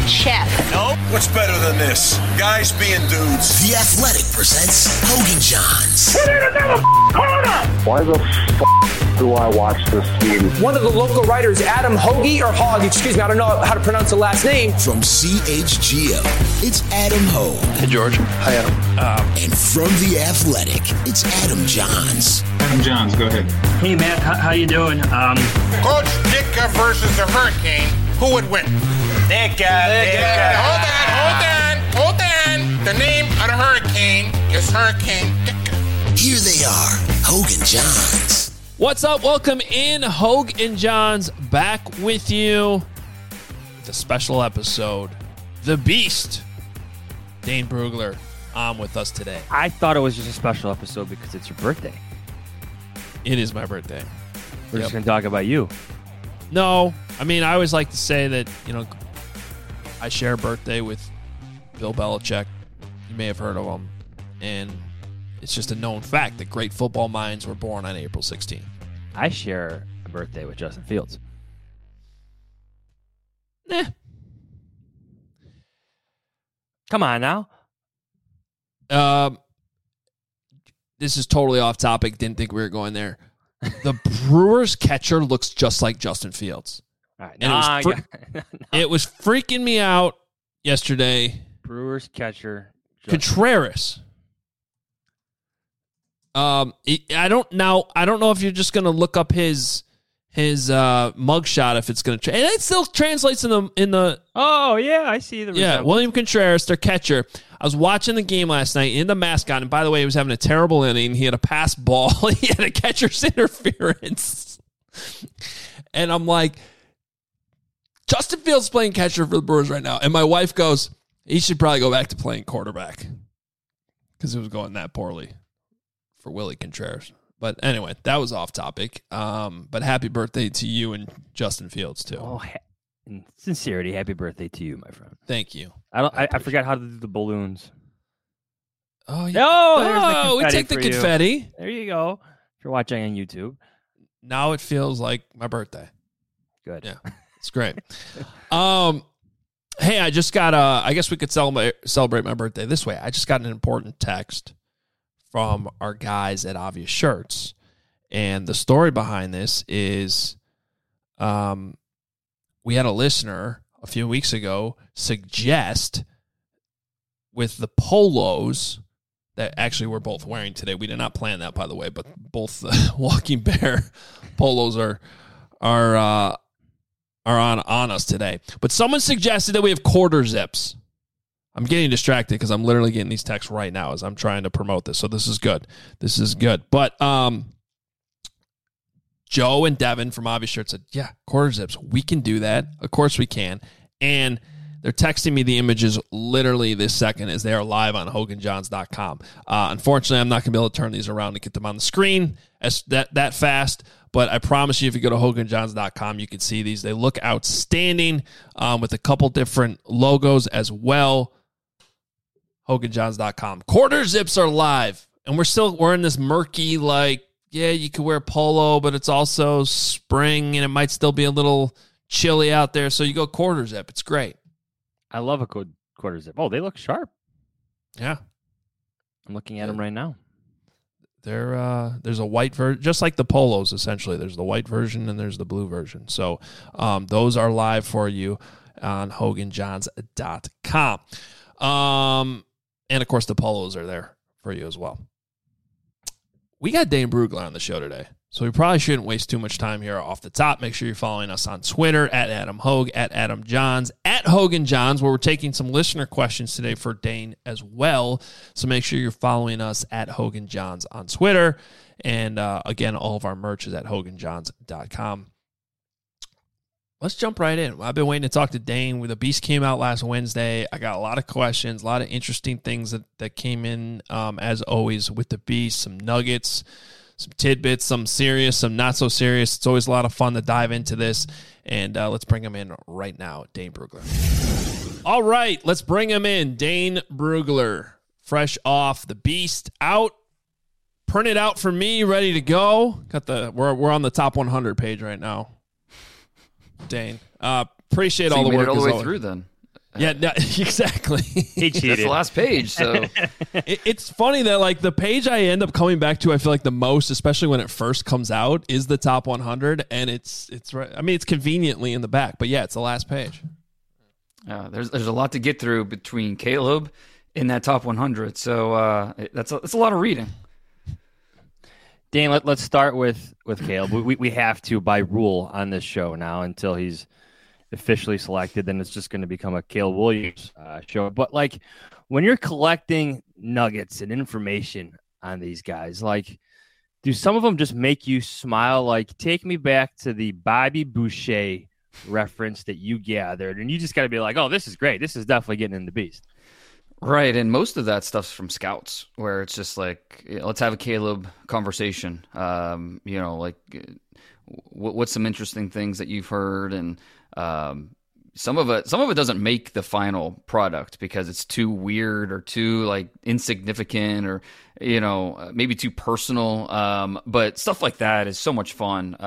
chef. Nope. What's better than this? Guys being dudes. The Athletic presents Hogan Johns. We need another corner! Why the do I watch this team? One of the local writers, Adam Hoagie, or Hogg, excuse me, I don't know how to pronounce the last name. From CHGO, it's Adam Hogue. Hey, George. Hi, Adam. And from The Athletic, it's Adam Johns. Adam Johns, go ahead. Hey, Matt, how you doing? Coach Ditka versus the Hurricane. Who would win? Ditka. Hold on. The name of the Hurricane is Hurricane Ditka. Here they are, Hogan Johns. What's up? Welcome in. Hogue and Johns back with you with a special episode. The Beast, Dane Brugler, on with us today. I thought it was just a special episode because it's your birthday. It is my birthday. We're just going to talk about you. No, I mean, I always like to say that, I share a birthday with Bill Belichick. You may have heard of him. And it's just a known fact that great football minds were born on April 16th. I share a birthday with Justin Fields. Come on now. This is totally off topic. Didn't think we were going there. The Brewers catcher looks just like Justin Fields. All right, And it was freaking me out yesterday. Brewers catcher Contreras. I don't know if you're just gonna look up his mugshot if it's gonna and it still translates in the Oh yeah, I see the resemblance. William Contreras, their catcher. I was watching the game last night in the mascot, and by the way, he was having a terrible inning. He had a pass ball. He had a catcher's interference. And I'm like, Justin Fields playing catcher for the Brewers right now. And my wife goes, he should probably go back to playing quarterback because it was going that poorly for Willie Contreras. But anyway, that was off topic. But happy birthday to you and Justin Fields, too. Oh, in sincerity, happy birthday to you, my friend. Thank you. I forgot how to do the balloons. Oh, yeah. We take the confetti. There you go. If you're watching on YouTube. Now it feels like my birthday. Good. Yeah, it's great. Hey, I just got I guess we could celebrate my birthday this way. I just got an important text from our guys at Obvious Shirts. And the story behind this is we had a listener a few weeks ago suggest with the polos that actually we're both wearing today. We did not plan that, by the way, but both the Walking Bear polos are on us today. But someone suggested that we have quarter zips. I'm getting distracted because I'm literally getting these texts right now as I'm trying to promote this. So this is good. But Joe and Devin from Obvious Shirt said, yeah, quarter zips. We can do that. Of course we can. And they're texting me the images literally this second as they are live on HoganJohns.com. Unfortunately, I'm not going to be able to turn these around and get them on the screen that fast. But I promise you, if you go to HoganJohns.com, you can see these. They look outstanding with a couple different logos as well. HoganJohns.com. Quarter zips are live. And we're in this murky, you could wear polo, but it's also spring and it might still be a little chilly out there. So you go quarter zip. It's great. I love a good quarter zip. Oh, they look sharp. Yeah. I'm looking at them right now. There's a white version, just like the polos, essentially. There's the white version and there's the blue version. So those are live for you on HoganJohns.com. And, of course, the polos are there for you as well. We got Dane Brugler on the show today, so we probably shouldn't waste too much time here off the top. Make sure you're following us on Twitter, at Adam Hogue, at Adam Johns, at Hogan Johns, where we're taking some listener questions today for Dane as well. So make sure you're following us at Hogan Johns on Twitter. And, again, all of our merch is at HoganJohns.com. Let's jump right in. I've been waiting to talk to Dane. The Beast came out last Wednesday. I got a lot of questions, a lot of interesting things that came in, as always, with the Beast. Some nuggets, some tidbits, some serious, some not so serious. It's always a lot of fun to dive into this. And let's bring him in right now, Dane Brugler. All right, let's bring him in. Dane Brugler, fresh off the Beast, out, printed out for me, ready to go. We're on the top 100 page right now. Dane, appreciate so all the work. All the way through then. Yeah, no, exactly. He cheated. That's the last page. So It's funny that like the page I end up coming back to, I feel like the most, especially when it first comes out, is the top 100, and it's right. I mean, it's conveniently in the back, but yeah, it's the last page. there's a lot to get through between Caleb and that top 100. So that's a lot of reading. Dan, let's start with Caleb. We have to, by rule, on this show now until he's officially selected. Then it's just going to become a Caleb Williams show. But like when you're collecting nuggets and information on these guys, like do some of them just make you smile? Like take me back to the Bobby Boucher reference that you gathered, and you just got to be like, oh, this is great. This is definitely getting in the beast. Right, and most of that stuff's from scouts, where it's just like, let's have a Caleb conversation. What's some interesting things that you've heard, and some of it doesn't make the final product because it's too weird or too like insignificant or maybe too personal. But stuff like that is so much fun.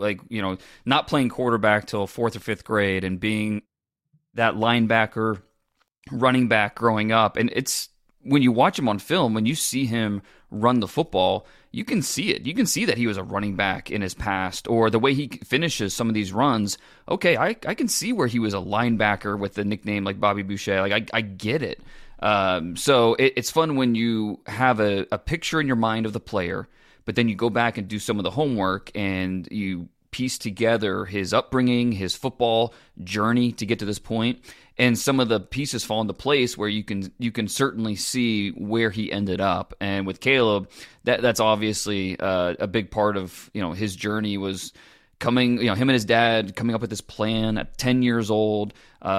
Not playing quarterback till 4th or 5th grade and being that linebacker, running back growing up, and it's when you watch him on film, when you see him run the football, you can see it. You can see that he was a running back in his past, or the way he finishes some of these runs. Okay, I can see where he was a linebacker with the nickname like Bobby Boucher. Like I get it. So it's fun when you have a picture in your mind of the player, but then you go back and do some of the homework and you piece together his upbringing, his football journey to get to this point, and some of the pieces fall into place where you can certainly see where he ended up. And with Caleb, that's obviously a big part of his journey was coming. Him and his dad coming up with this plan at 10 years old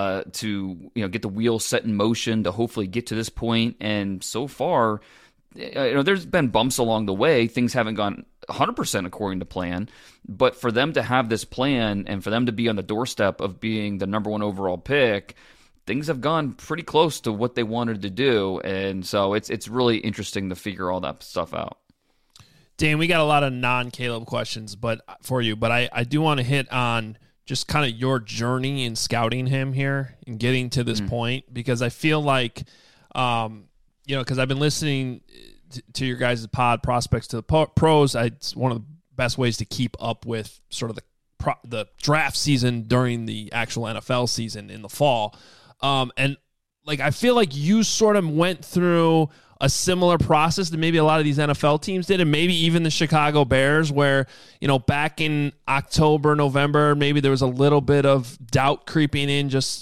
to get the wheels set in motion to hopefully get to this point. And so far, there's been bumps along the way. Things haven't gone 100% according to plan, but for them to have this plan and for them to be on the doorstep of being the number 1 overall pick, things have gone pretty close to what they wanted to do. And so it's really interesting to figure all that stuff out. Dan, we got a lot of non-Caleb questions for you, but I do want to hit on just kind of your journey in scouting him here and getting to this point, because I feel like, because I've been listening to your guys' pod, Prospects to the Pros. It's one of the best ways to keep up with sort of the draft season during the actual NFL season in the fall. And like I feel like you sort of went through a similar process that maybe a lot of these NFL teams did, and maybe even the Chicago Bears, where back in October, November, maybe there was a little bit of doubt creeping in, just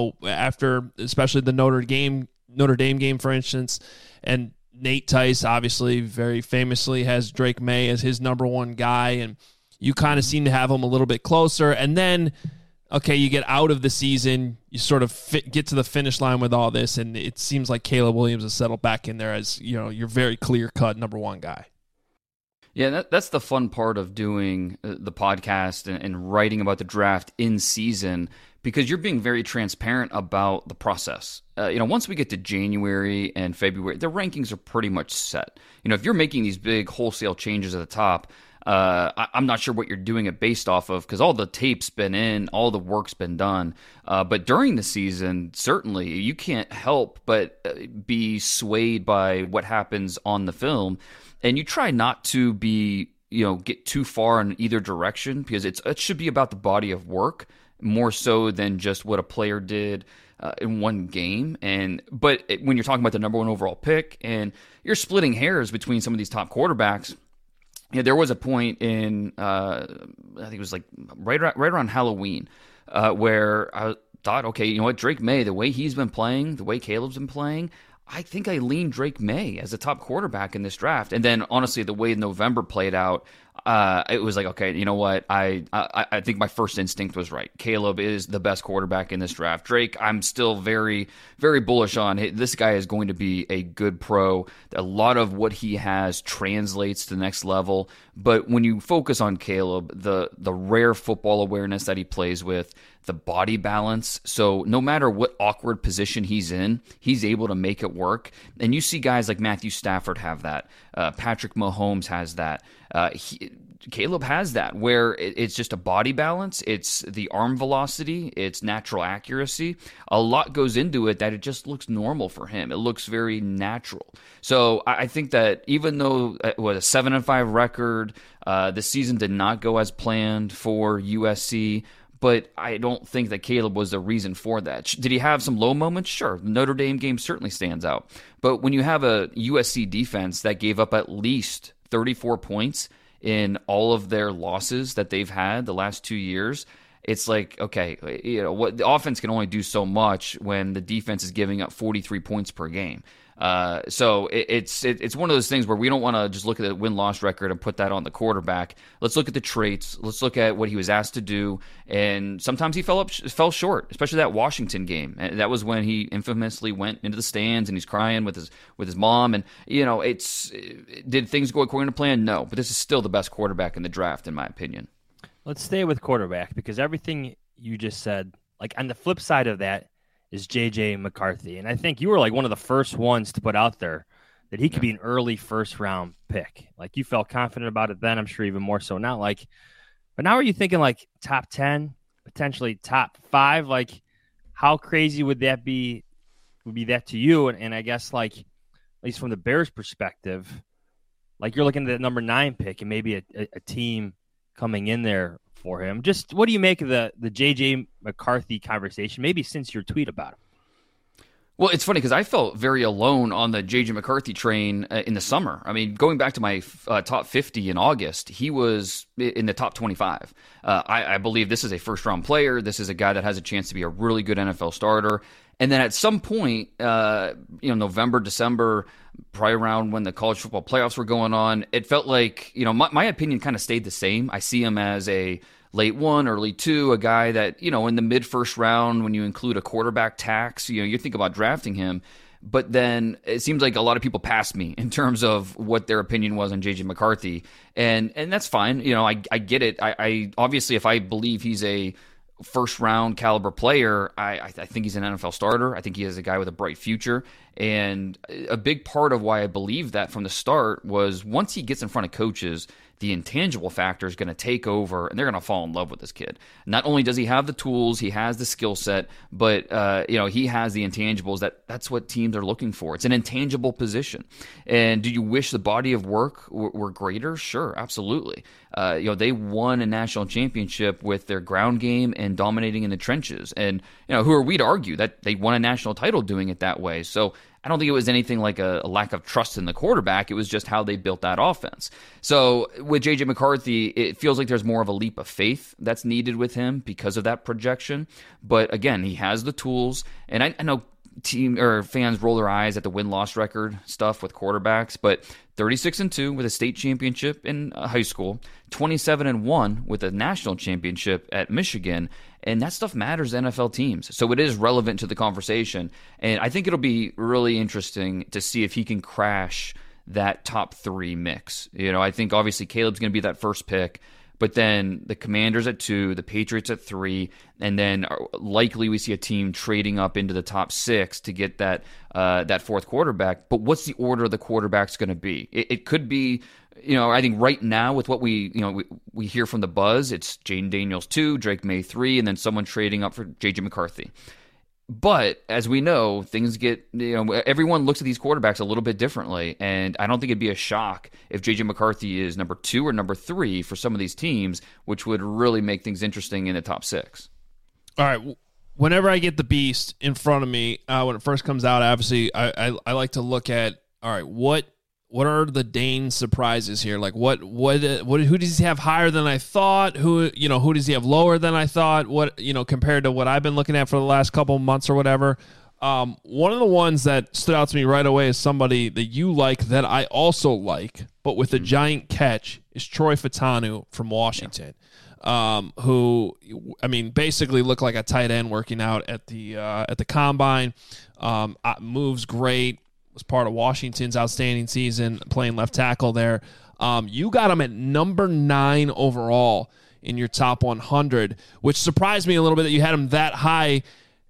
after especially the Notre Dame game, for instance, and Nate Tice obviously very famously has Drake May as his number 1 guy, and you kind of seem to have him a little bit closer. And then, okay, you get out of the season, you sort of get to the finish line with all this, and it seems like Caleb Williams has settled back in there as your very clear-cut number 1 guy. Yeah, that's the fun part of doing the podcast and writing about the draft in season, because you're being very transparent about the process. Once we get to January and February, the rankings are pretty much set. If you're making these big wholesale changes at the top, I'm not sure what you're doing it based off of, because all the tape's been in, all the work's been done. But during the season, certainly, you can't help but be swayed by what happens on the film. And you try not to be, get too far in either direction, because it should be about the body of work more so than just what a player did in one game. But when you're talking about the number 1 overall pick and you're splitting hairs between some of these top quarterbacks, there was a point in I think it was like right around Halloween where I thought, okay, Drake May, the way he's been playing, the way Caleb's been playing, I think I lean Drake May as a top quarterback in this draft. And then honestly, the way November played out, it was like, okay, you know what? I think my first instinct was right. Caleb is the best quarterback in this draft. Drake, I'm still very, very bullish on. This guy is going to be a good pro. A lot of what he has translates to the next level. But when you focus on Caleb, the rare football awareness that he plays with, the body balance. So no matter what awkward position he's in, he's able to make it work. And you see guys like Matthew Stafford have that. Patrick Mahomes has that. Caleb has that, where it's just a body balance, it's the arm velocity, it's natural accuracy. A lot goes into it that it just looks normal for him. It looks very natural. So I think that even though it was a 7-5 record, the season did not go as planned for USC, but I don't think that Caleb was the reason for that. Did he have some low moments? Sure. The Notre Dame game certainly stands out. But when you have a USC defense that gave up at least 34 points in all of their losses that they've had the last 2 years, it's like, okay, what the offense can only do so much when the defense is giving up 43 points per game. So it's one of those things where we don't want to just look at the win-loss record and put that on the quarterback. Let's look at the traits. Let's look at what he was asked to do. And sometimes he fell short, especially that Washington game. And that was when he infamously went into the stands and he's crying with his mom. And did things go according to plan? No, but this is still the best quarterback in the draft, in my opinion. Let's stay with quarterback, because everything you just said, like on the flip side of that, is J.J. McCarthy. And I think you were like one of the first ones to put out there that he could be an early first-round pick. Like, you felt confident about it then, I'm sure even more so now. Like, but now are you thinking like top 10, potentially top 5? Like, how crazy would that be? Would be that to you? And I guess, like, at least from the Bears' perspective, like you're looking at the number 9 pick and maybe a team coming in there for him. Just what do you make of the J.J. McCarthy conversation, maybe since your tweet about him? Well, it's funny because I felt very alone on the J.J. McCarthy train in the summer. I mean, going back to my top 50 in August, he was in the top 25. I believe this is a first-round player. This is a guy that has a chance to be a really good NFL starter. And then at some point, November, December, probably around when the college football playoffs were going on, it felt like, my opinion kind of stayed the same. I see him as a late 1, early 2, a guy that, in the mid-first round, when you include a quarterback tax, you think about drafting him. But then it seems like a lot of people passed me in terms of what their opinion was on J.J. McCarthy. And that's fine. I get it. I obviously, if I believe he's a first-round caliber player, I think he's an NFL starter. I think he is a guy with a bright future. And a big part of why I believe that from the start was once he gets in front of coaches, the intangible factor is going to take over, and they're going to fall in love with this kid. Not only does he have the tools, he has the skill set, but he has the intangibles. That's what teams are looking for. It's an intangible position. And do you wish the body of work were greater? Sure, absolutely. They won a national championship with their ground game and dominating in the trenches. And who are we to argue that they won a national title doing it that way? So I don't think it was anything like a lack of trust in the quarterback. It was just how they built that offense. So with J.J. McCarthy, it feels like there's more of a leap of faith that's needed with him because of that projection. But again, he has the tools. And I know team or fans roll their eyes at the win-loss record stuff with quarterbacks, but 36-2 with a state championship in high school, 27-1 with a national championship at Michigan, and that stuff matters to NFL teams. So it is relevant to the conversation, and I think it'll be really interesting to see if he can crash that top 3 mix. I think obviously Caleb's going to be that first pick, but then the Commanders at 2, the Patriots at 3, and then likely we see a team trading up into the top 6 to get that fourth quarterback. But what's the order of the quarterbacks going to be? It could be, I think right now with what we hear from the buzz, it's Jaden Daniels 2, Drake May 3, and then someone trading up for J.J. McCarthy. But as we know, things get, everyone looks at these quarterbacks a little bit differently. And I don't think it'd be a shock if J.J. McCarthy is number 2 or number 3 for some of these teams, which would really make things interesting in the top 6. All right. Whenever I get the beast in front of me, when it first comes out, obviously I like to look at, all right, what are the Dane surprises here? Like who does he have higher than I thought? Who does he have lower than I thought? What, compared to what I've been looking at for the last couple of months or whatever. One of the ones that stood out to me right away is somebody that you like that I also like, but with a giant catch, is Troy Fautanu from Washington. Who, basically looked like a tight end working out at the combine. Moves great. Was part of Washington's outstanding season, playing left tackle there. You got him at number 9 overall in your top 100, which surprised me a little bit that you had him that high,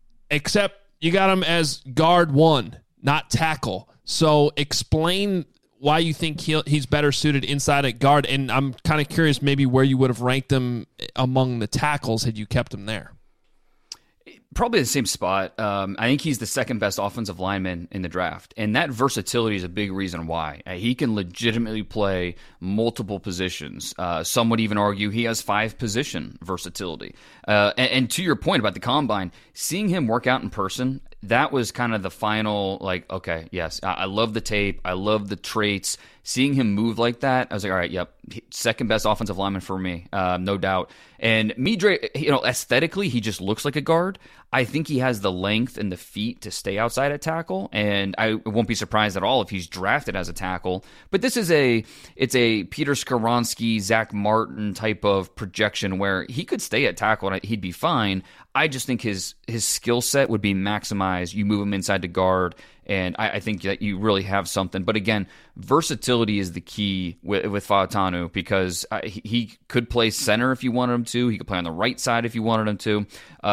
except you got him as guard 1, not tackle. So explain why you think he's better suited inside at guard, and I'm kind of curious maybe where you would have ranked him among the tackles had you kept him there. Probably the same spot. I think he's the second best offensive lineman in the draft, and that versatility is a big reason why. He can legitimately play multiple positions. Some would even argue he has 5 position versatility. And to your point about the combine, seeing him work out in person, that was kind of the final, like, okay, yes, I love the tape. I love the traits. Seeing him move like that, I was like, all right, yep, second best offensive lineman for me, no doubt. And Midre, aesthetically, he just looks like a guard. I think he has the length and the feet to stay outside at tackle, and I won't be surprised at all if he's drafted as a tackle. But this is it's a Peter Skoronski, Zach Martin type of projection where he could stay at tackle and he'd be fine. I just think his skill set would be maximized. You move him inside to guard, and I think that you really have something. But again, versatility is the key with Fautanu, because he could play center if you wanted him to. He could play on the right side if you wanted him to.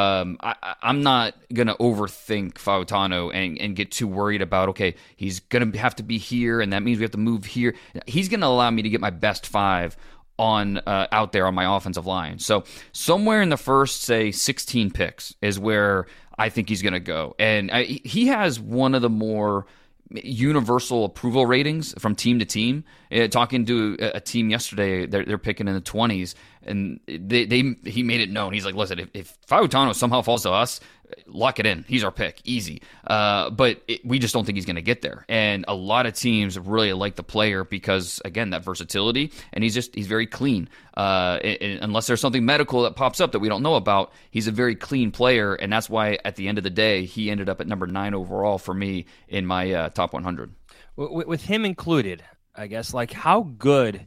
I'm not going to overthink Fautanu and get too worried about, okay, he's going to have to be here, and that means we have to move here. He's going to allow me to get my best 5 on out there on my offensive line. So somewhere in the first, say, 16 picks is where I think he's going to go. And he has one of the more universal approval ratings from team to team. Talking to a team yesterday, they're picking in the 20s, and he made it known. He's like, listen, if Fautanu somehow falls to us, lock it in. He's our pick, easy. But we just don't think he's going to get there. And a lot of teams really like the player because, again, that versatility, and he's very clean. Unless there's something medical that pops up that we don't know about, he's a very clean player, and that's why at the end of the day, he ended up at number 9 overall for me in my top 100. With him included, I guess, like, how good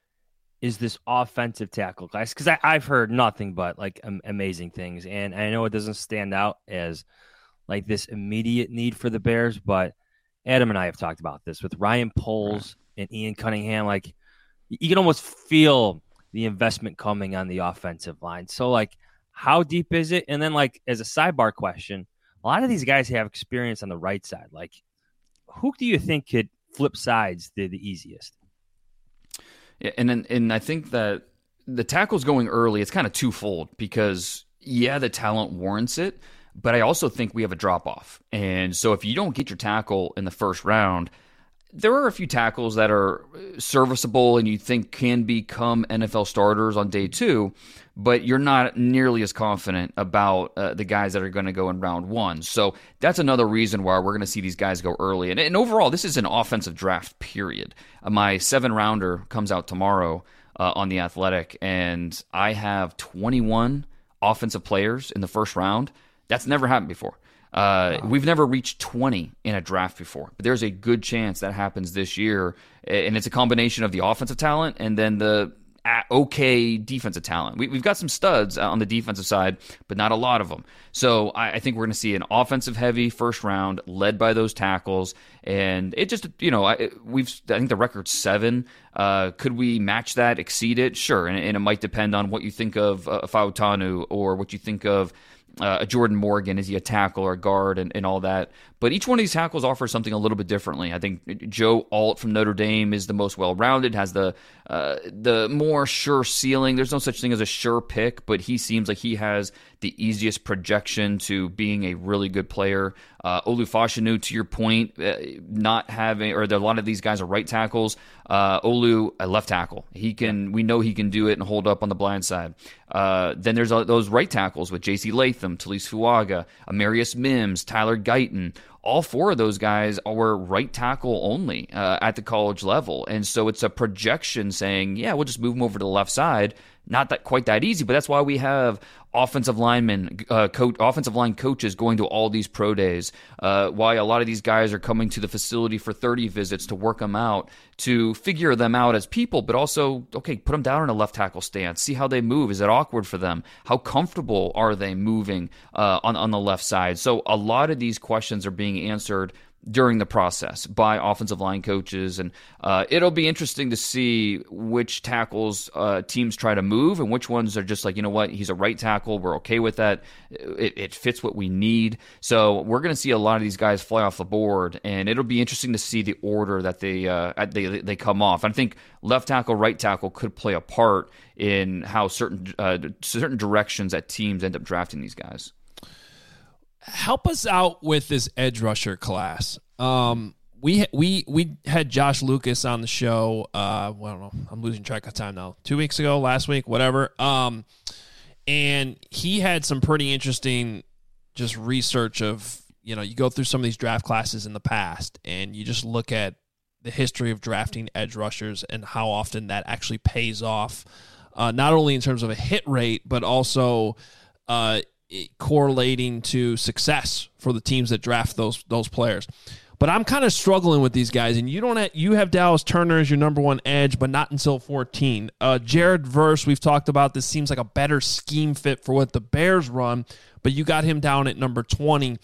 is this offensive tackle class? Because I've heard nothing but like amazing things, and I know it doesn't stand out as like this immediate need for the Bears, but Adam and I have talked about this with Ryan Poles and Ian Cunningham. Like, you can almost feel the investment coming on the offensive line. So, like, how deep is it? And then, like, as a sidebar question, a lot of these guys have experience on the right side. Like, who do you think could flip sides the easiest? Yeah, and I think that the tackles going early, it's kind of twofold because, yeah, the talent warrants it, but I also think we have a drop-off. And so if you don't get your tackle in the first round, there are a few tackles that are serviceable and you think can become NFL starters on day 2, but you're not nearly as confident about the guys that are going to go in round 1. So that's another reason why we're going to see these guys go early. And overall, this is an offensive draft, period. My 7-rounder comes out tomorrow on The Athletic, and I have 21 offensive players in the first round. That's never happened before. We've never reached 20 in a draft before, but there's a good chance that happens this year, and it's a combination of the offensive talent and then the okay defensive talent. We've got some studs on the defensive side, but not a lot of them. So I think we're going to see an offensive-heavy first round led by those tackles, and it just, I think the record's 7. Could we match that, exceed it? Sure, and it might depend on what you think of Fautanu or what you think of Jordan Morgan. Is he a tackle or a guard and all that? But each one of these tackles offers something a little bit differently. I think Joe Alt from Notre Dame is the most well-rounded, has the more sure ceiling. There's no such thing as a sure pick, but he seems like he has the easiest projection to being a really good player. Olu Fashanu, to your point, not having, or a lot of these guys are right tackles. Olu, a left tackle. We know he can do it and hold up on the blind side. Then there's those right tackles with J.C. Latham, Talise Fuaga, Amarius Mims, Tyler Guyton. All 4 of those guys were right tackle only at the college level. And so it's a projection saying, yeah, we'll just move them over to the left side. Not that quite that easy, but that's why we have offensive line coaches going to all these pro days. Why a lot of these guys are coming to the facility for 30 visits to work them out, to figure them out as people, but also, okay, put them down in a left tackle stance. See how they move. Is it awkward for them? How comfortable are they moving on the left side? So a lot of these questions are being answered during the process by offensive line coaches. And it'll be interesting to see which tackles teams try to move and which ones are just like, you know what, he's a right tackle. We're okay with that. It fits what we need. So we're going to see a lot of these guys fly off the board, and it'll be interesting to see the order that they come off. I think left tackle, right tackle could play a part in how certain directions that teams end up drafting these guys. Help us out with this edge rusher class. We had Josh Lucas on the show. I don't know. I'm losing track of time now. 2 weeks ago, last week, whatever. And he had some pretty interesting just research of, you go through some of these draft classes in the past, and you just look at the history of drafting edge rushers and how often that actually pays off, not only in terms of a hit rate, but also correlating to success for the teams that draft those players. But I'm kind of struggling with these guys, and you have Dallas Turner as your number one edge, but not until 14. Jared Verse, we've talked about this, seems like a better scheme fit for what the Bears run, but you got him down at number 20.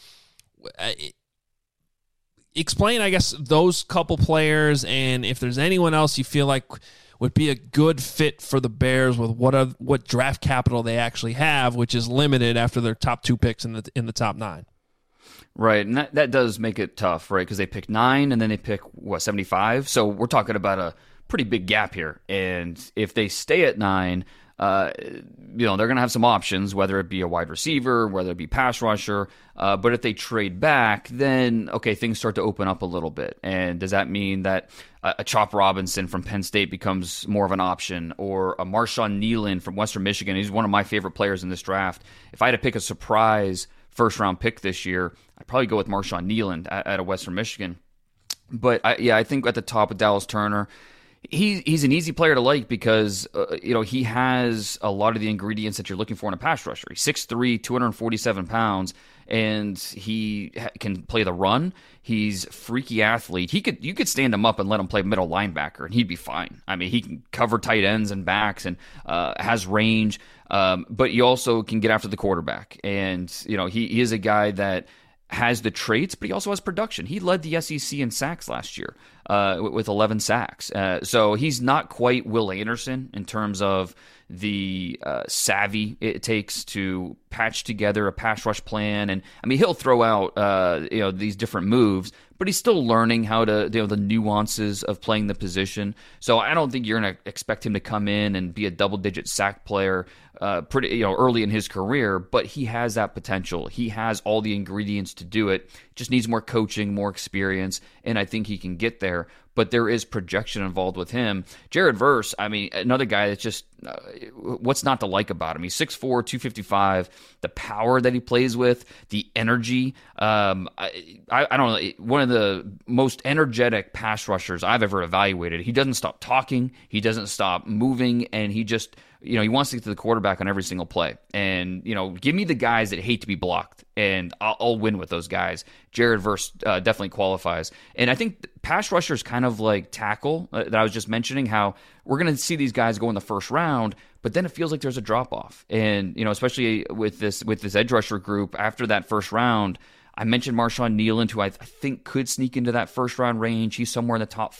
Explain, I guess, those couple players, and if there's anyone else you feel like would be a good fit for the Bears with what draft capital they actually have, which is limited after their top 2 picks in the top 9. Right, and that does make it tough, right? Because they pick 9 and then they pick 75. So we're talking about a pretty big gap here. And if they stay at 9, they're going to have some options, whether it be a wide receiver, whether it be pass rusher. But if they trade back, then okay, things start to open up a little bit. And does that mean that a Chop Robinson from Penn State becomes more of an option, or a Marshawn Kneeland from Western Michigan? He's one of my favorite players in this draft. If I had to pick a surprise first-round pick this year, I'd probably go with Marshawn Kneeland at a Western Michigan. But I think at the top of Dallas Turner, he's an easy player to like because he has a lot of the ingredients that you're looking for in a pass rusher. He's 6'3", 247 pounds, and he can play the run. He's a freaky athlete. You could stand him up and let him play middle linebacker, and he'd be fine. I mean, he can cover tight ends and backs, and has range. But you also can get after the quarterback, and he is a guy that has the traits, but he also has production. He led the SEC in sacks last year with 11 sacks. So he's not quite Will Anderson in terms of the savvy it takes to patch together a pass rush plan. And I mean, he'll throw out these different moves, but he's still learning how to the nuances of playing the position. So I don't think you're going to expect him to come in and be a double-digit sack player pretty early in his career, but he has that potential. He has all the ingredients to do it. Just needs more coaching, more experience, and I think he can get there. But there is projection involved with him. Jared Verse, I mean, another guy that's just what's not to like about him? He's 6'4", 255. The power that he plays with, the energy. I don't know. One of the most energetic pass rushers I've ever evaluated. He doesn't stop talking. He doesn't stop moving, and he just he wants to get to the quarterback on every single play. And give me the guys that hate to be blocked, and I'll win with those guys. Jared Verse definitely qualifies. And I think pass rusher is kind of like tackle that I was just mentioning, how we're going to see these guys go in the first round, but then it feels like there's a drop-off. And, especially with this edge rusher group, after that first round, I mentioned Marshawn Kneeland, who I think could sneak into that first-round range. He's somewhere in the top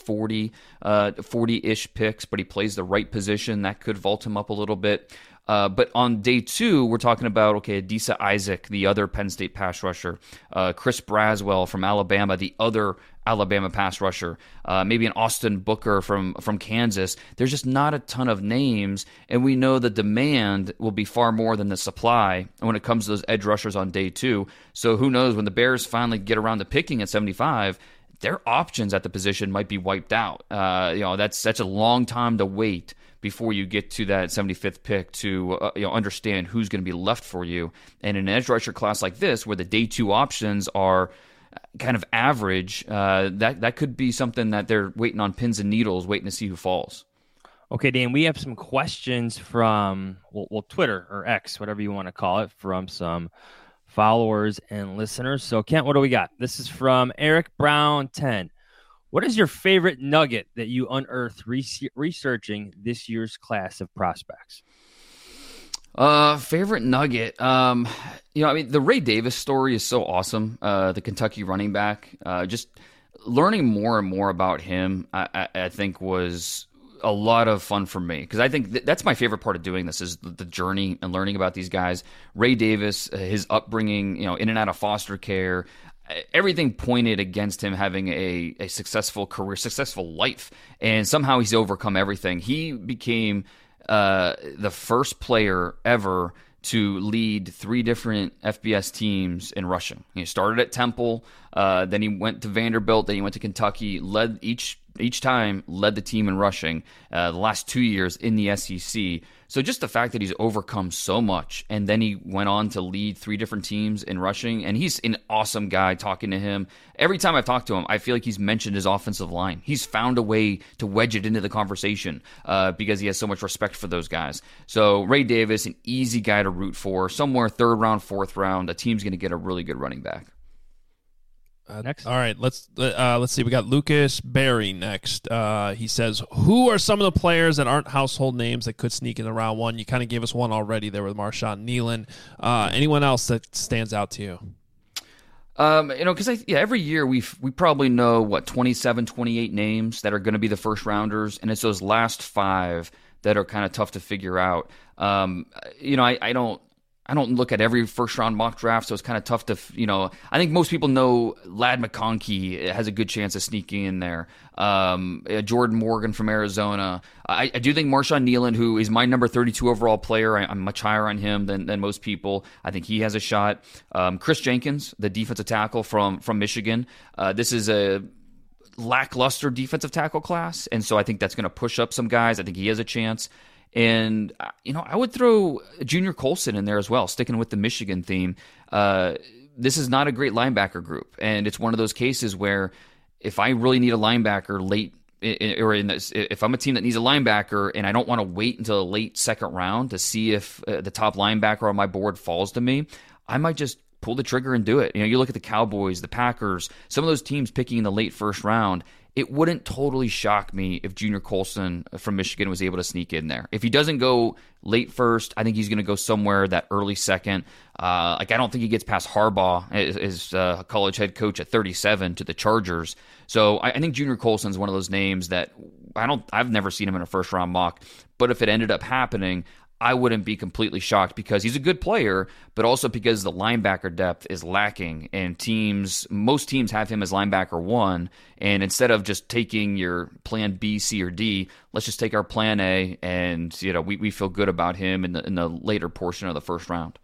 40-ish picks, but he plays the right position. That could vault him up a little bit. But on day 2, we're talking about, Adisa Isaac, the other Penn State pass rusher, Chris Braswell from Alabama, the other Alabama pass rusher, maybe an Austin Booker from Kansas. There's just not a ton of names, and we know the demand will be far more than the supply when it comes to those edge rushers on day 2. So who knows, when the Bears finally get around to picking at 75, their options at the position might be wiped out. That's such a long time to wait before you get to that 75th pick to understand who's going to be left for you. And in an edge rusher class like this, where the day 2 options are kind of average, that could be something that they're waiting on pins and needles, waiting to see who falls. Okay, Dan, we have some questions from Twitter or X, whatever you want to call it, from some followers and listeners. So, Kent, what do we got? This is from Eric Brown 10. What is your favorite nugget that you unearthed researching this year's class of prospects? Favorite nugget. The Ray Davis story is so awesome. The Kentucky running back. Just learning more and more about him, I think was a lot of fun for me, because I think that's my favorite part of doing this is the journey and learning about these guys. Ray Davis, his upbringing, in and out of foster care, everything pointed against him having a successful career, successful life, and somehow he's overcome everything. He became the first player ever to lead 3 different FBS teams in rushing. He started at Temple, then he went to Vanderbilt, then he went to Kentucky, led each time led the team in rushing the last 2 years in the SEC. So just the fact that he's overcome so much, and then he went on to lead 3 different teams in rushing, and he's an awesome guy. Talking to him, every time I've talked to him, I feel like he's mentioned his offensive line. He's found a way to wedge it into the conversation because he has so much respect for those guys. So Ray Davis, an easy guy to root for. Somewhere 3rd round, 4th round, a team's going to get a really good running back. Next. All right, let's see. We got Lucas Berry next. He says, who are some of the players that aren't household names that could sneak into round 1? You kind of gave us one already there with Marshawn Nealon. Anyone else that stands out to you? Because every year we probably know 27, 28 names that are going to be the first rounders, and it's those last 5 that are kind of tough to figure out. I don't look at every first-round mock draft, so it's kind of tough to, I think most people know Ladd McConkey has a good chance of sneaking in there. Jordan Morgan from Arizona. I do think Marshawn Nealon, who is my number 32 overall player, I'm much higher on him than most people. I think he has a shot. Chris Jenkins, the defensive tackle from Michigan. This is a lackluster defensive tackle class, and so I think that's going to push up some guys. I think he has a chance. And, I would throw Junior Colson in there as well, sticking with the Michigan theme. This is not a great linebacker group, and it's one of those cases where if I really need a linebacker late, if I'm a team that needs a linebacker and I don't want to wait until a late 2nd round to see if the top linebacker on my board falls to me, I might just pull the trigger and do it. You look at the Cowboys, the Packers, some of those teams picking in the late 1st round. It wouldn't totally shock me if Junior Colson from Michigan was able to sneak in there. If he doesn't go late 1st, I think he's going to go somewhere that early 2nd. I don't think he gets past Harbaugh as college head coach at 37 to the Chargers. So I think Junior Colson's one of those names that I've never seen him in a 1st-round mock. But if it ended up happening, I wouldn't be completely shocked because he's a good player, but also because the linebacker depth is lacking, and most teams have him as linebacker 1, and instead of just taking your plan B, C, or D, let's just take our plan A, and we feel good about him in the later portion of the 1st round.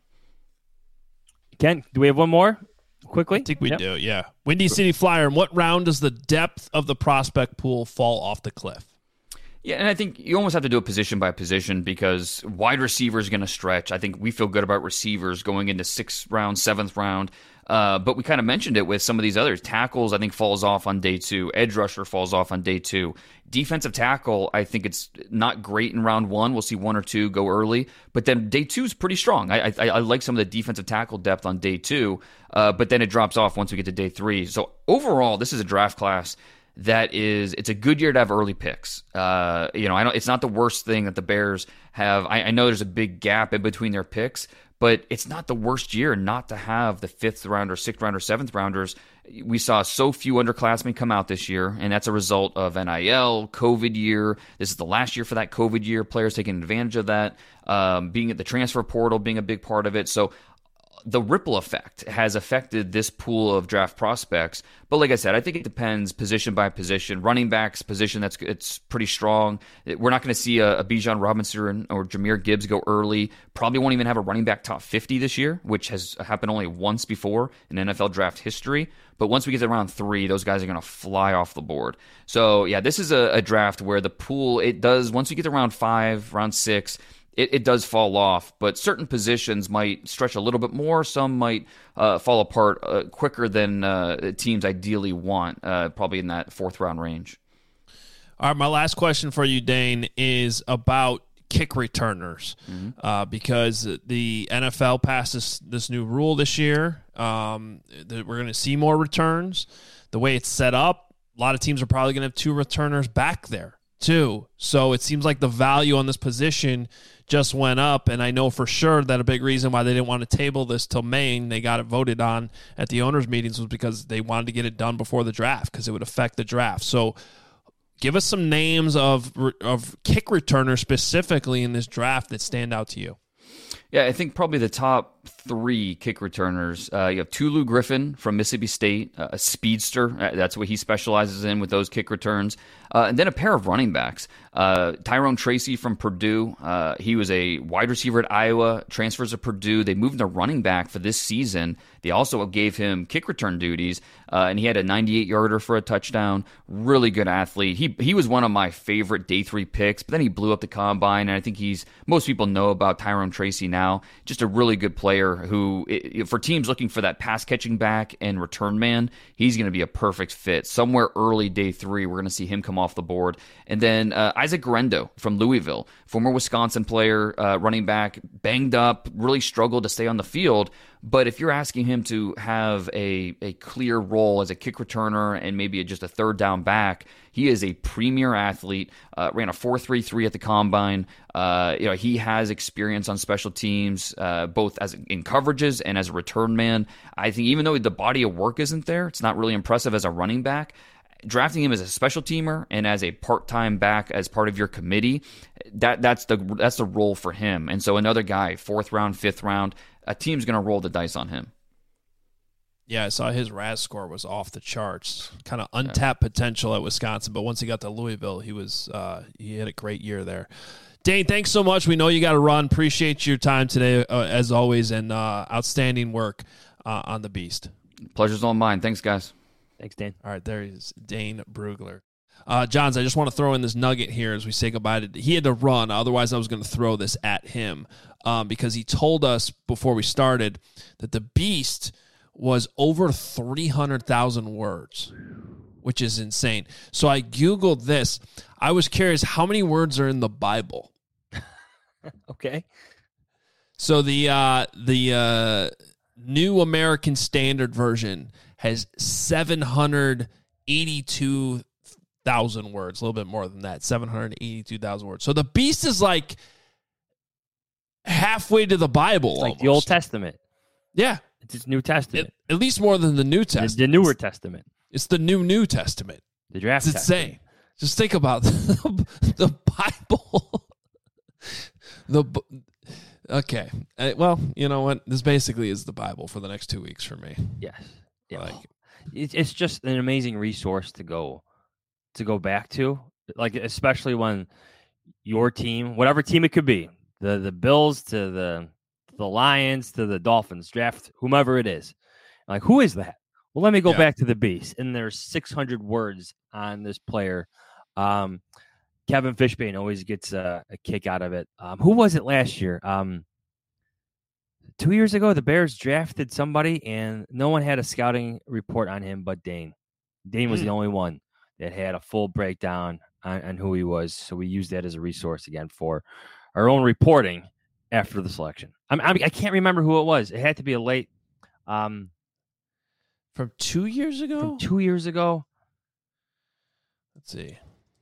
Ken, do we have one more quickly? I think we do, yeah. Windy City Flyer, in what round does the depth of the prospect pool fall off the cliff? Yeah, and I think you almost have to do it position by position because wide receiver is going to stretch. I think we feel good about receivers going into 6th round, 7th round. But we kind of mentioned it with some of these others. Tackles, I think, falls off on day 2. Edge rusher falls off on day 2. Defensive tackle, I think it's not great in round 1. We'll see 1 or 2 go early. But then day 2 is pretty strong. I like some of the defensive tackle depth on day 2. But then it drops off once we get to day 3. So overall, this is a draft class it's a good year to have early picks. It's not the worst thing that the Bears have. I know there's a big gap in between their picks, but it's not the worst year not to have the 5th round or 6th round or 7th rounders. We saw so few underclassmen come out this year, and that's a result of NIL, COVID year. This is the last year for that COVID year. Players taking advantage of that, being at the transfer portal, being a big part of it. So the ripple effect has affected this pool of draft prospects. But like I said, I think it depends position by position. Running backs position, it's pretty strong. We're not going to see a Bijan Robinson or Jahmyr Gibbs go early. Probably won't even have a running back top 50 this year, which has happened only once before in NFL draft history. But once we get to round 3, those guys are going to fly off the board. So yeah, this is a draft where the pool, once we get to round 5, round 6, it does fall off, but certain positions might stretch a little bit more. Some might fall apart quicker than teams ideally want, probably in that 4th round range. All right, my last question for you, Dane, is about kick returners, because the NFL passes this new rule this year. That we're going to see more returns. The way it's set up, a lot of teams are probably going to have 2 returners back there too. So it seems like the value on this position just went up, and I know for sure that a big reason why they didn't want to table this till May and they got it voted on at the owners' meetings was because they wanted to get it done before the draft because it would affect the draft. So give us some names of kick returners specifically in this draft that stand out to you. Yeah, I think probably the top 3 kick returners. You have Tulu Griffin from Mississippi State, a speedster. That's what he specializes in with those kick returns. And then a pair of running backs. Tyrone Tracy from Purdue. He was a wide receiver at Iowa, transfers to Purdue. They moved him to running back for this season. They also gave him kick return duties, and he had a 98-yarder for a touchdown. Really good athlete. He was one of my favorite day 3 picks, but then he blew up the combine, and I think most people know about Tyrone Tracy now. Just a really good player who, for teams looking for that pass-catching back and return man, he's going to be a perfect fit. Somewhere early day 3, we're going to see him come off the board. And then Isaac Garendo from Louisville, former Wisconsin player, running back, banged up, really struggled to stay on the field. But if you're asking him to have a clear role as a kick returner and maybe just a third down back, he is a premier athlete, ran a 4.33 at the combine. He has experience on special teams, both in coverages and as a return man. I think even though the body of work isn't there, it's not really impressive as a running back. Drafting him as a special teamer and as a part-time back as part of your committee, that's the role for him. And so another guy, 4th round, 5th round, a team's going to roll the dice on him. Yeah, I saw his RAS score was off the charts. Kind of untapped potential at Wisconsin, but once he got to Louisville, he had a great year there. Dane, thanks so much. We know you got to run. Appreciate your time today, as always, and outstanding work on the Beast. Pleasure's all mine. Thanks, guys. Thanks, Dan. All right, there is Dane Brugler. Johns, I just want to throw in this nugget here as we say goodbye. He had to run, otherwise I was going to throw this at him because he told us before we started that the Beast was over 300,000 words, which is insane. So I Googled this. I was curious, how many words are in the Bible? Okay. So the New American Standard Version has 782,000 words, a little bit more than that, 782,000 words. So the Beast is like halfway to the Bible. It's like almost. the Old Testament. Yeah. It's his New Testament. At least more than the New Testament. The Newer Testament. It's the New Testament. The draft It's insane. Testament. Just think about the Bible. Okay. Well, you know what? This basically is the Bible for the next 2 weeks for me. Yes. Yeah. Like, it's just an amazing resource to go back to, like especially when your team, whatever team it could be, the Bills to the Lions to the Dolphins, draft whomever it is. Like, who is that? Well, let me go back to the Beast, and there's 600 words on this player. Kevin Fishbane always gets a kick out of it. Who was it last year? 2 years ago, the Bears drafted somebody, and no one had a scouting report on him but Dane. Dane was the only one that had a full breakdown on who he was, so we used that as a resource again for our own reporting after the selection. I can't remember who it was. It had to be a late... from 2 years ago? From 2 years ago. Let's see.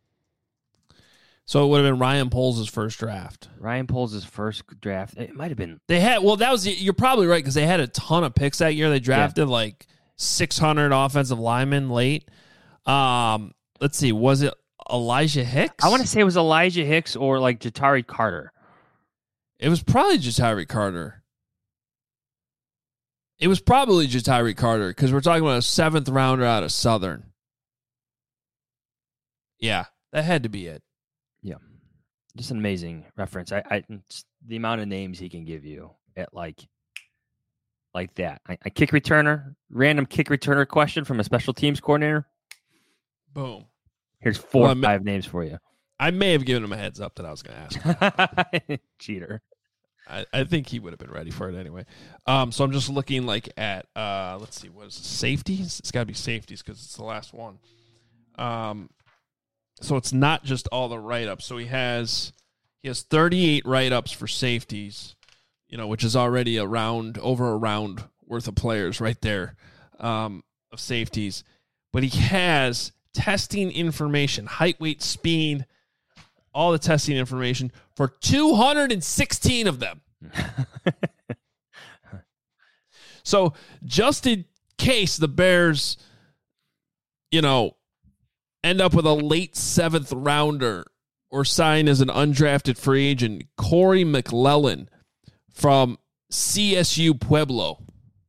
So it would have been Ryan Poles' first draft. Ryan Poles' first draft. It might have been. You're probably right because they had a ton of picks that year. They drafted like 600 offensive linemen late. Let's see. Was it Elijah Hicks? I want to say it was Elijah Hicks or like Jatari Carter. It was probably Jatari Carter. It was probably Jatari Carter because we're talking about a 7th rounder out of Southern. Yeah, that had to be it. Yeah, just an amazing reference. I the amount of names he can give you at like that. A kick returner, random kick returner question from a special teams coordinator. Boom. Here's 4 or 5 names for you. I may have given him a heads up that I was going to ask. Cheater. I think he would have been ready for it anyway. So I'm just looking like at let's see, what is it? Safeties? It's got to be safeties because it's the last one. So it's not just all the write-ups. So he has 38 write-ups for safeties, which is already over a round worth of players right there of safeties. But he has testing information, height, weight, speed, all the testing information for 216 of them. So just in case the Bears, end up with a late 7th rounder or sign as an undrafted free agent, Corey McClellan from CSU Pueblo,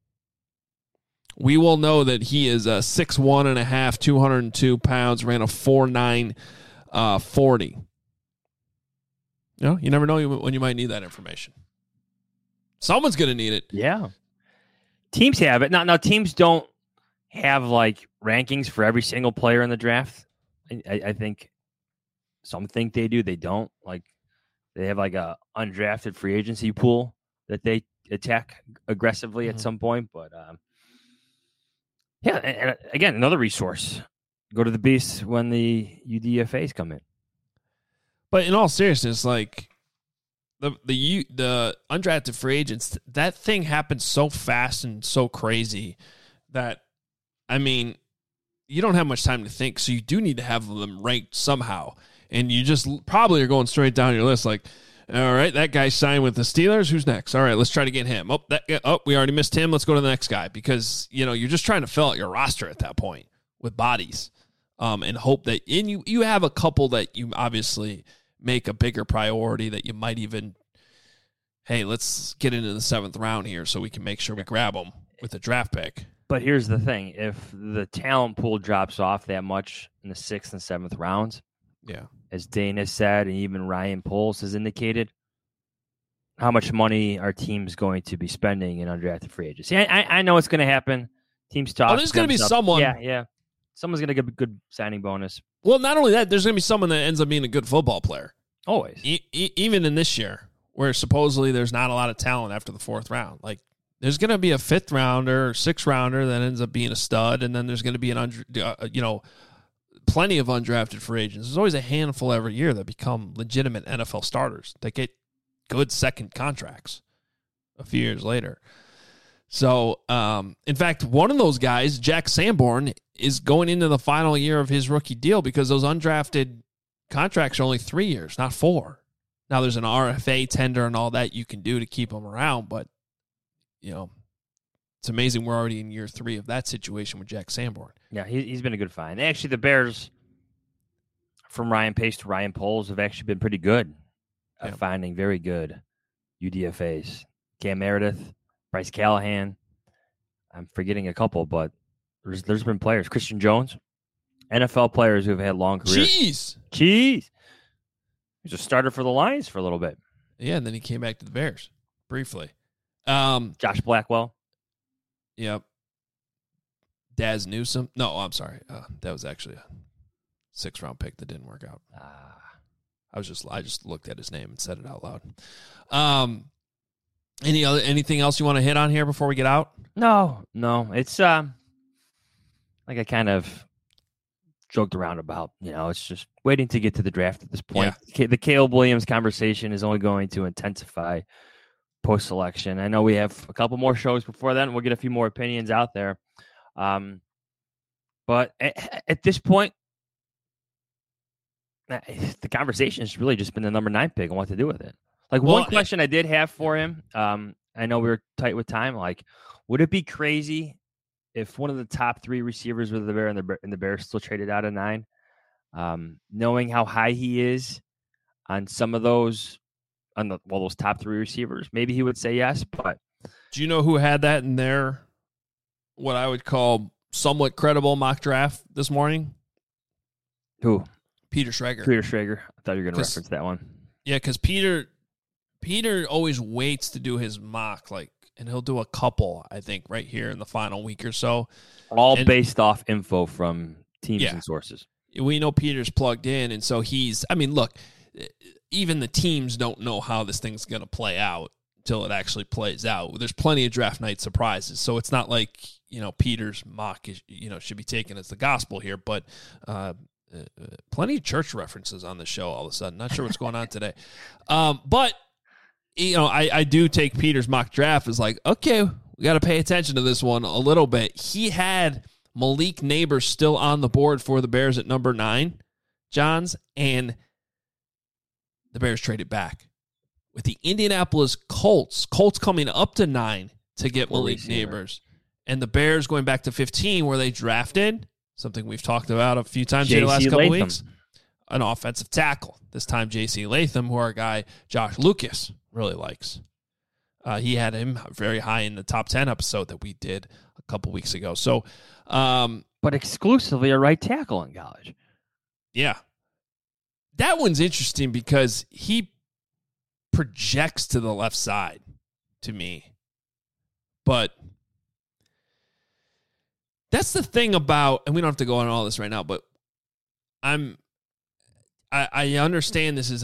we will know that he is 6'1.5", 202 pounds, ran a 4.9 40. You never know when you might need that information. Someone's going to need it. Yeah. Teams have it. Now teams don't have like rankings for every single player in the draft. I think some think they do. They don't. Like they have like a undrafted free agency pool that they attack aggressively at some point. But and again, another resource. Go to the Beast when the UDFAs come in. But in all seriousness, like the undrafted free agents, that thing happens so fast and so crazy that, I mean, you don't have much time to think, so you do need to have them ranked somehow. And you just probably are going straight down your list like, all right, that guy signed with the Steelers. Who's next? All right, let's try to get him. We already missed him. Let's go to the next guy because, you're just trying to fill out your roster at that point with bodies and hope that you have a couple that you obviously make a bigger priority that you might even, hey, let's get into the 7th round here so we can make sure we grab them with a draft pick. But here's the thing. If the talent pool drops off that much in the 6th and 7th rounds, as Dana said, and even Ryan Poles has indicated, how much money are teams going to be spending in undrafted free agency? I know it's going to happen. Teams talk. Oh, there's going to be someone. Yeah. Someone's going to get a good signing bonus. Well, not only that, there's going to be someone that ends up being a good football player. Always. Even in this year, where supposedly there's not a lot of talent after the 4th round. Like, there's going to be a 5th rounder or 6th rounder that ends up being a stud, and then there's going to be plenty of undrafted free agents. There's always a handful every year that become legitimate NFL starters that get good second contracts a few years later. So, in fact, one of those guys, Jack Sanborn, is going into the final year of his rookie deal because those undrafted contracts are only 3 years, not 4. Now, there's an RFA tender and all that you can do to keep them around, but, it's amazing we're already in year 3 of that situation with Jack Sanborn. Yeah, he's been a good find. Actually, the Bears, from Ryan Pace to Ryan Poles, have actually been pretty good at finding very good UDFAs. Cam Meredith, Bryce Callahan. I'm forgetting a couple, but there's been players. Christian Jones, NFL players who have had long careers. Cheese. He's a starter for the Lions for a little bit. Yeah, and then he came back to the Bears briefly. Josh Blackwell. Yep. Daz Newsome. No, I'm sorry. That was actually a 6th round pick that didn't work out. I just looked at his name and said it out loud. Anything else you want to hit on here before we get out? No. It's like I kind of joked around about, it's just waiting to get to the draft at this point. Yeah. The Caleb Williams conversation is only going to intensify post-selection. I know we have a couple more shows before then. We'll get a few more opinions out there. But at this point, the conversation has really just been the number 9 pick and what to do with it. Like, one question I did have for him, I know we were tight with time. Like, would it be crazy if one of the top 3 receivers with the Bear and the Bears still traded out of 9? Knowing how high he is on some of those, those top 3 receivers, maybe he would say yes. But do you know who had that in their, what I would call somewhat credible mock draft this morning? Who? Peter Schrager. I thought you were going to reference that one. Yeah, because Peter always waits to do his mock, and he'll do a couple, I think, right here in the final week or so. All based off info from teams and sources. We know Peter's plugged in, and so look, even the teams don't know how this thing's going to play out until it actually plays out. There's plenty of draft night surprises, so it's not like, Peter's mock is, should be taken as the gospel here, but plenty of church references on the show all of a sudden. Not sure what's going on today. But, I do take Peter's mock draft as like, okay, we got to pay attention to this one a little bit. He had Malik Neighbors still on the board for the Bears at number 9, Johns, and the Bears traded back. With the Indianapolis Colts coming up to 9 to get Malik Neighbors, and the Bears going back to 15 where they drafted, something we've talked about a few times in the last couple weeks, an offensive tackle. This time J.C. Latham, who our guy Josh Lucas really likes. He had him very high in the top 10 episode that we did a couple weeks ago. So, but exclusively a right tackle in college. Yeah. That one's interesting because he projects to the left side to me. But that's the thing about, and we don't have to go on all this right now, but I understand this is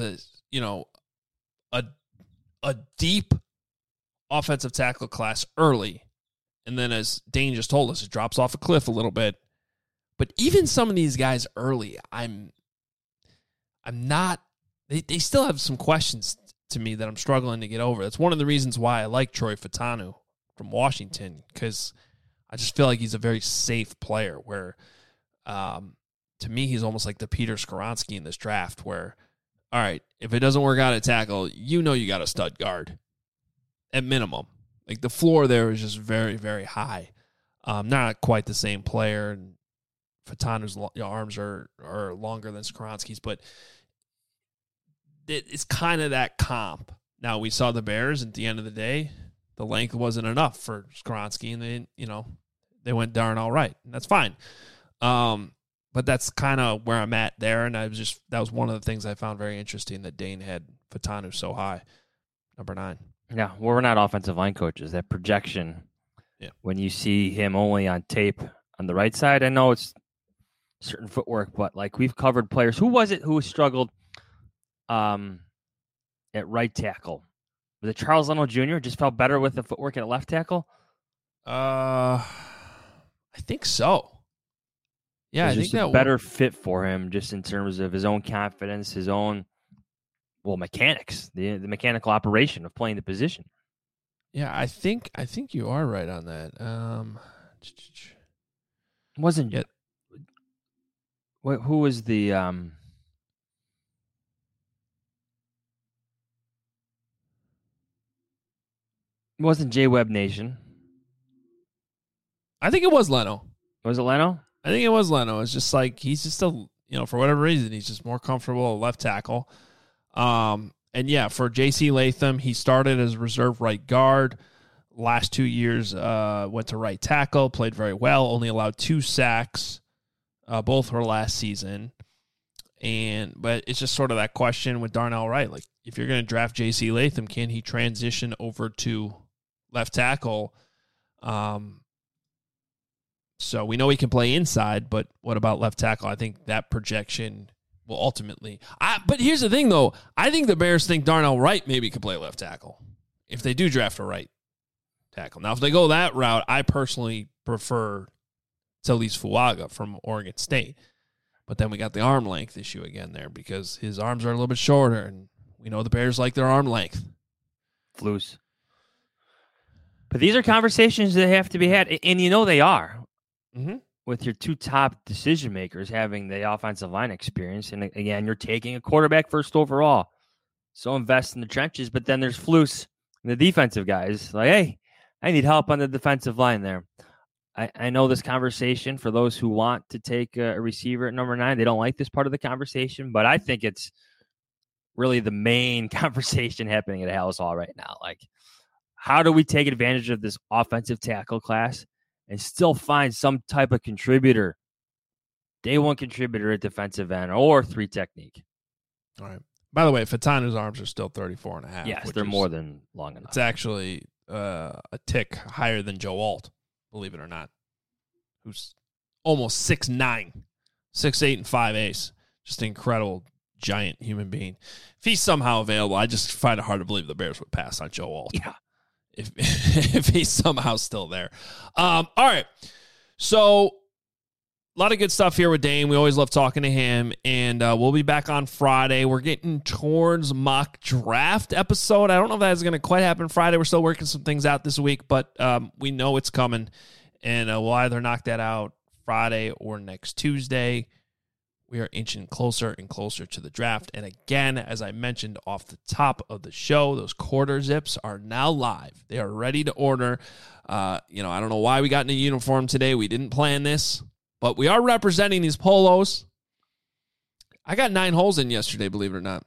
a deep offensive tackle class early. And then as Dane just told us, it drops off a cliff a little bit. But even some of these guys early, I'm not, they still have some questions to me that I'm struggling to get over. That's one of the reasons why I like Troy Fautanu from Washington, because I just feel like he's a very safe player where, to me, he's almost like the Peter Skoronski in this draft where, all right, if it doesn't work out at tackle, you got a stud guard at minimum. Like the floor there is just very, very high. Not quite the same player, and Fautanu's arms are longer than Skoronski's, but it's kind of that comp. Now, we saw the Bears at the end of the day, the length wasn't enough for Skoronski, and they went darn all right, and that's fine. But that's kind of where I'm at there, and that was one of the things I found very interesting that Dane had Fautanu so high, number 9. Yeah, well, we're not offensive line coaches. That projection, when you see him only on tape on the right side, I know it's certain footwork, but like we've covered players. Who was it who struggled at right tackle? Was it Charles Leno Jr.? Just felt better with the footwork at left tackle? I think so. Yeah, I think that better fit for him just in terms of his own confidence, his own mechanics, the mechanical operation of playing the position. Yeah, I think you are right on that. Wasn't yet. Who was the It wasn't J Webb Nation. I think it was Leno. Was it Leno? I think it was Leno. It's just like he's just for whatever reason, he's just more comfortable at left tackle. And yeah, for J.C. Latham, he started as reserve right guard. Last 2 years, went to right tackle, played very well, only allowed 2 sacks, both were last season. But it's just sort of that question with Darnell Wright. Like, if you're going to draft J.C. Latham, can he transition over to left tackle? So we know he can play inside, but what about left tackle? I think that projection will ultimately. But here's the thing, though. I think the Bears think Darnell Wright maybe could play left tackle if they do draft a right tackle. Now, if they go that route, I personally prefer Taliese Fuaga from Oregon State. But then we got the arm length issue again there because his arms are a little bit shorter, and we know the Bears like their arm length. Flus. But these are conversations that have to be had, and they are. Mm-hmm. With your 2 top decision makers having the offensive line experience. And again, you're taking a quarterback first overall. So invest in the trenches, but then there's Flus and the defensive guys. Like, hey, I need help on the defensive line there. I know this conversation for those who want to take a receiver at number 9. They don't like this part of the conversation, but I think it's really the main conversation happening at Halas Hall right now. Like, how do we take advantage of this offensive tackle class and still find some type of contributor, day one contributor at defensive end or 3 technique? All right. By the way, Fautanu's arms are still 34.5. Yes, they're more than long enough. It's actually a tick higher than Joe Alt, believe it or not, who's almost 6'9", 6'8", and 5'8". Just an incredible, giant human being. If he's somehow available, I just find it hard to believe the Bears would pass on Joe Alt. Yeah. If he's somehow still there. All right. So a lot of good stuff here with Dane. We always love talking to him, and we'll be back on Friday. We're getting towards mock draft episode. I don't know if that's going to quite happen Friday. We're still working some things out this week, but we know it's coming, and we'll either knock that out Friday or next Tuesday. we are inching closer and closer to the draft. And again, as I mentioned off the top of the show, those quarter zips are now live. They are ready to order. I don't know why we got in a uniform today. We didn't plan this, but we are representing these polos. I got 9 holes in yesterday, believe it or not.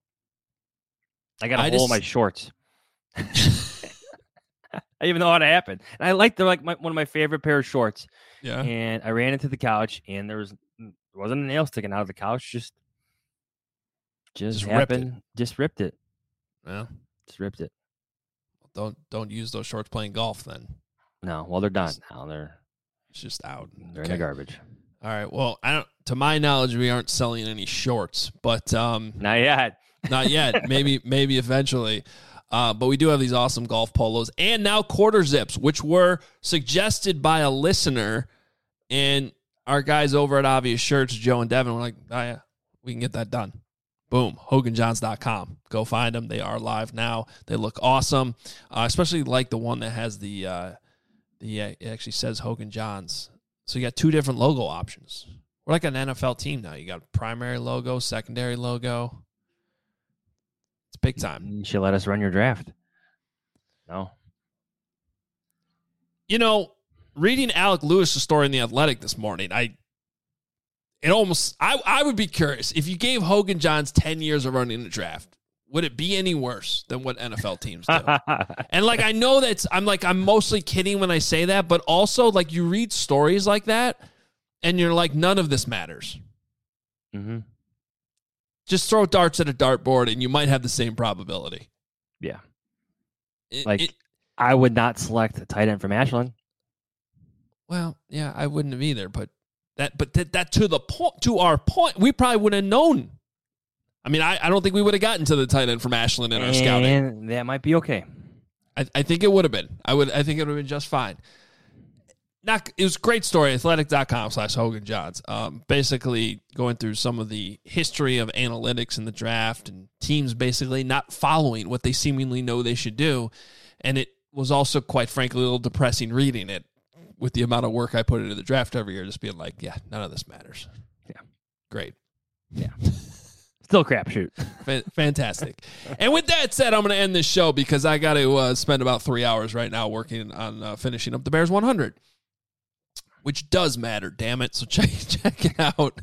I got a hole in my shorts. I didn't even know how to happen. And they're like one of my favorite pair of shorts. Yeah. And I ran into the couch, and there wasn't a nail sticking out of the couch. Just happened. Just ripped it. Yeah. Just ripped it. Don't use those shorts playing golf then. No. Well, they're done now. It's just out. They're in the garbage. All right. Well, to my knowledge, we aren't selling any shorts, but not yet. Not yet. Maybe eventually. But we do have these awesome golf polos and now quarter zips, which were suggested by a listener. And our guys over at Obvious Shirts, Joe and Devin, were like, oh, yeah, we can get that done. Boom. HoganJohns.com. Go find them. They are live now. They look awesome. Especially like the one that has it actually says Hogan Johns. So you got 2 different logo options. We're like an NFL team now. You got a primary logo, secondary logo. It's big time. You should let us run your draft. No. Reading Alec Lewis' story in The Athletic this morning, I would be curious. If you gave Hogan Johns 10 years of running the draft, would it be any worse than what NFL teams do? And I know I'm mostly kidding when I say that, but also you read stories like that and you're like, none of this matters. Mm-hmm. Just throw darts at a dartboard and you might have the same probability. Yeah. I would not select a tight end from Ashland. Well, yeah, I wouldn't have either, but that to our point, we probably wouldn't have known. I mean, I don't think we would have gotten to the tight end from Ashland in our scouting. And that might be okay. I think it would have been. I think it would have been just fine. It was a great story, athletic.com/Hogan Johns. Basically going through some of the history of analytics in the draft and teams basically not following what they seemingly know they should do. And it was also, quite frankly, a little depressing reading it with the amount of work I put into the draft every year, just being like, yeah, none of this matters. Yeah. Great. Yeah. Still crapshoot. Fantastic. And with that said, I'm going to end this show because I got to spend about 3 hours right now working on finishing up the Bears 100. Which does matter, damn it. So check it out.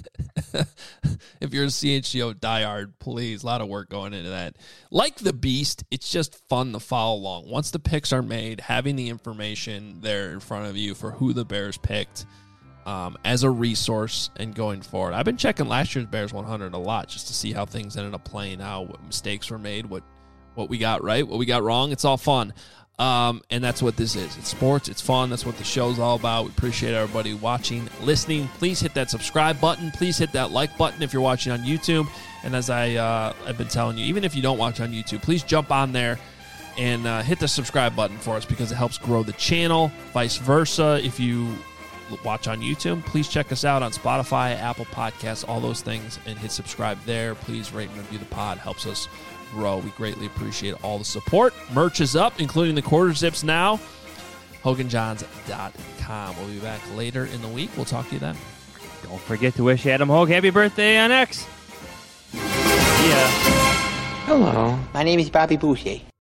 If you're a CHGO diehard, please. A lot of work going into that. Like the Beast, it's just fun to follow along. Once the picks are made, having the information there in front of you for who the Bears picked as a resource and going forward. I've been checking last year's Bears 100 a lot just to see how things ended up playing out, what mistakes were made, what we got right, what we got wrong. It's all fun. And that's what this is. It's sports. It's fun. That's what the show's all about. We appreciate everybody watching, listening. Please hit that subscribe button. Please hit that like button if you're watching on YouTube. And as I've been telling you, even if you don't watch on YouTube, please jump on there and hit the subscribe button for us because it helps grow the channel. Vice versa, if you watch on YouTube, please check us out on Spotify, Apple Podcasts, all those things, and hit subscribe there. Please rate and review the pod. Helps us grow. We greatly appreciate all the support. Merch is up, including the quarter zips now. HoganJohns.com. We'll be back later in the week. We'll talk to you then. Don't forget to wish Adam Hogue happy birthday on X. Yeah. Hello, my name is Bobby Boucher.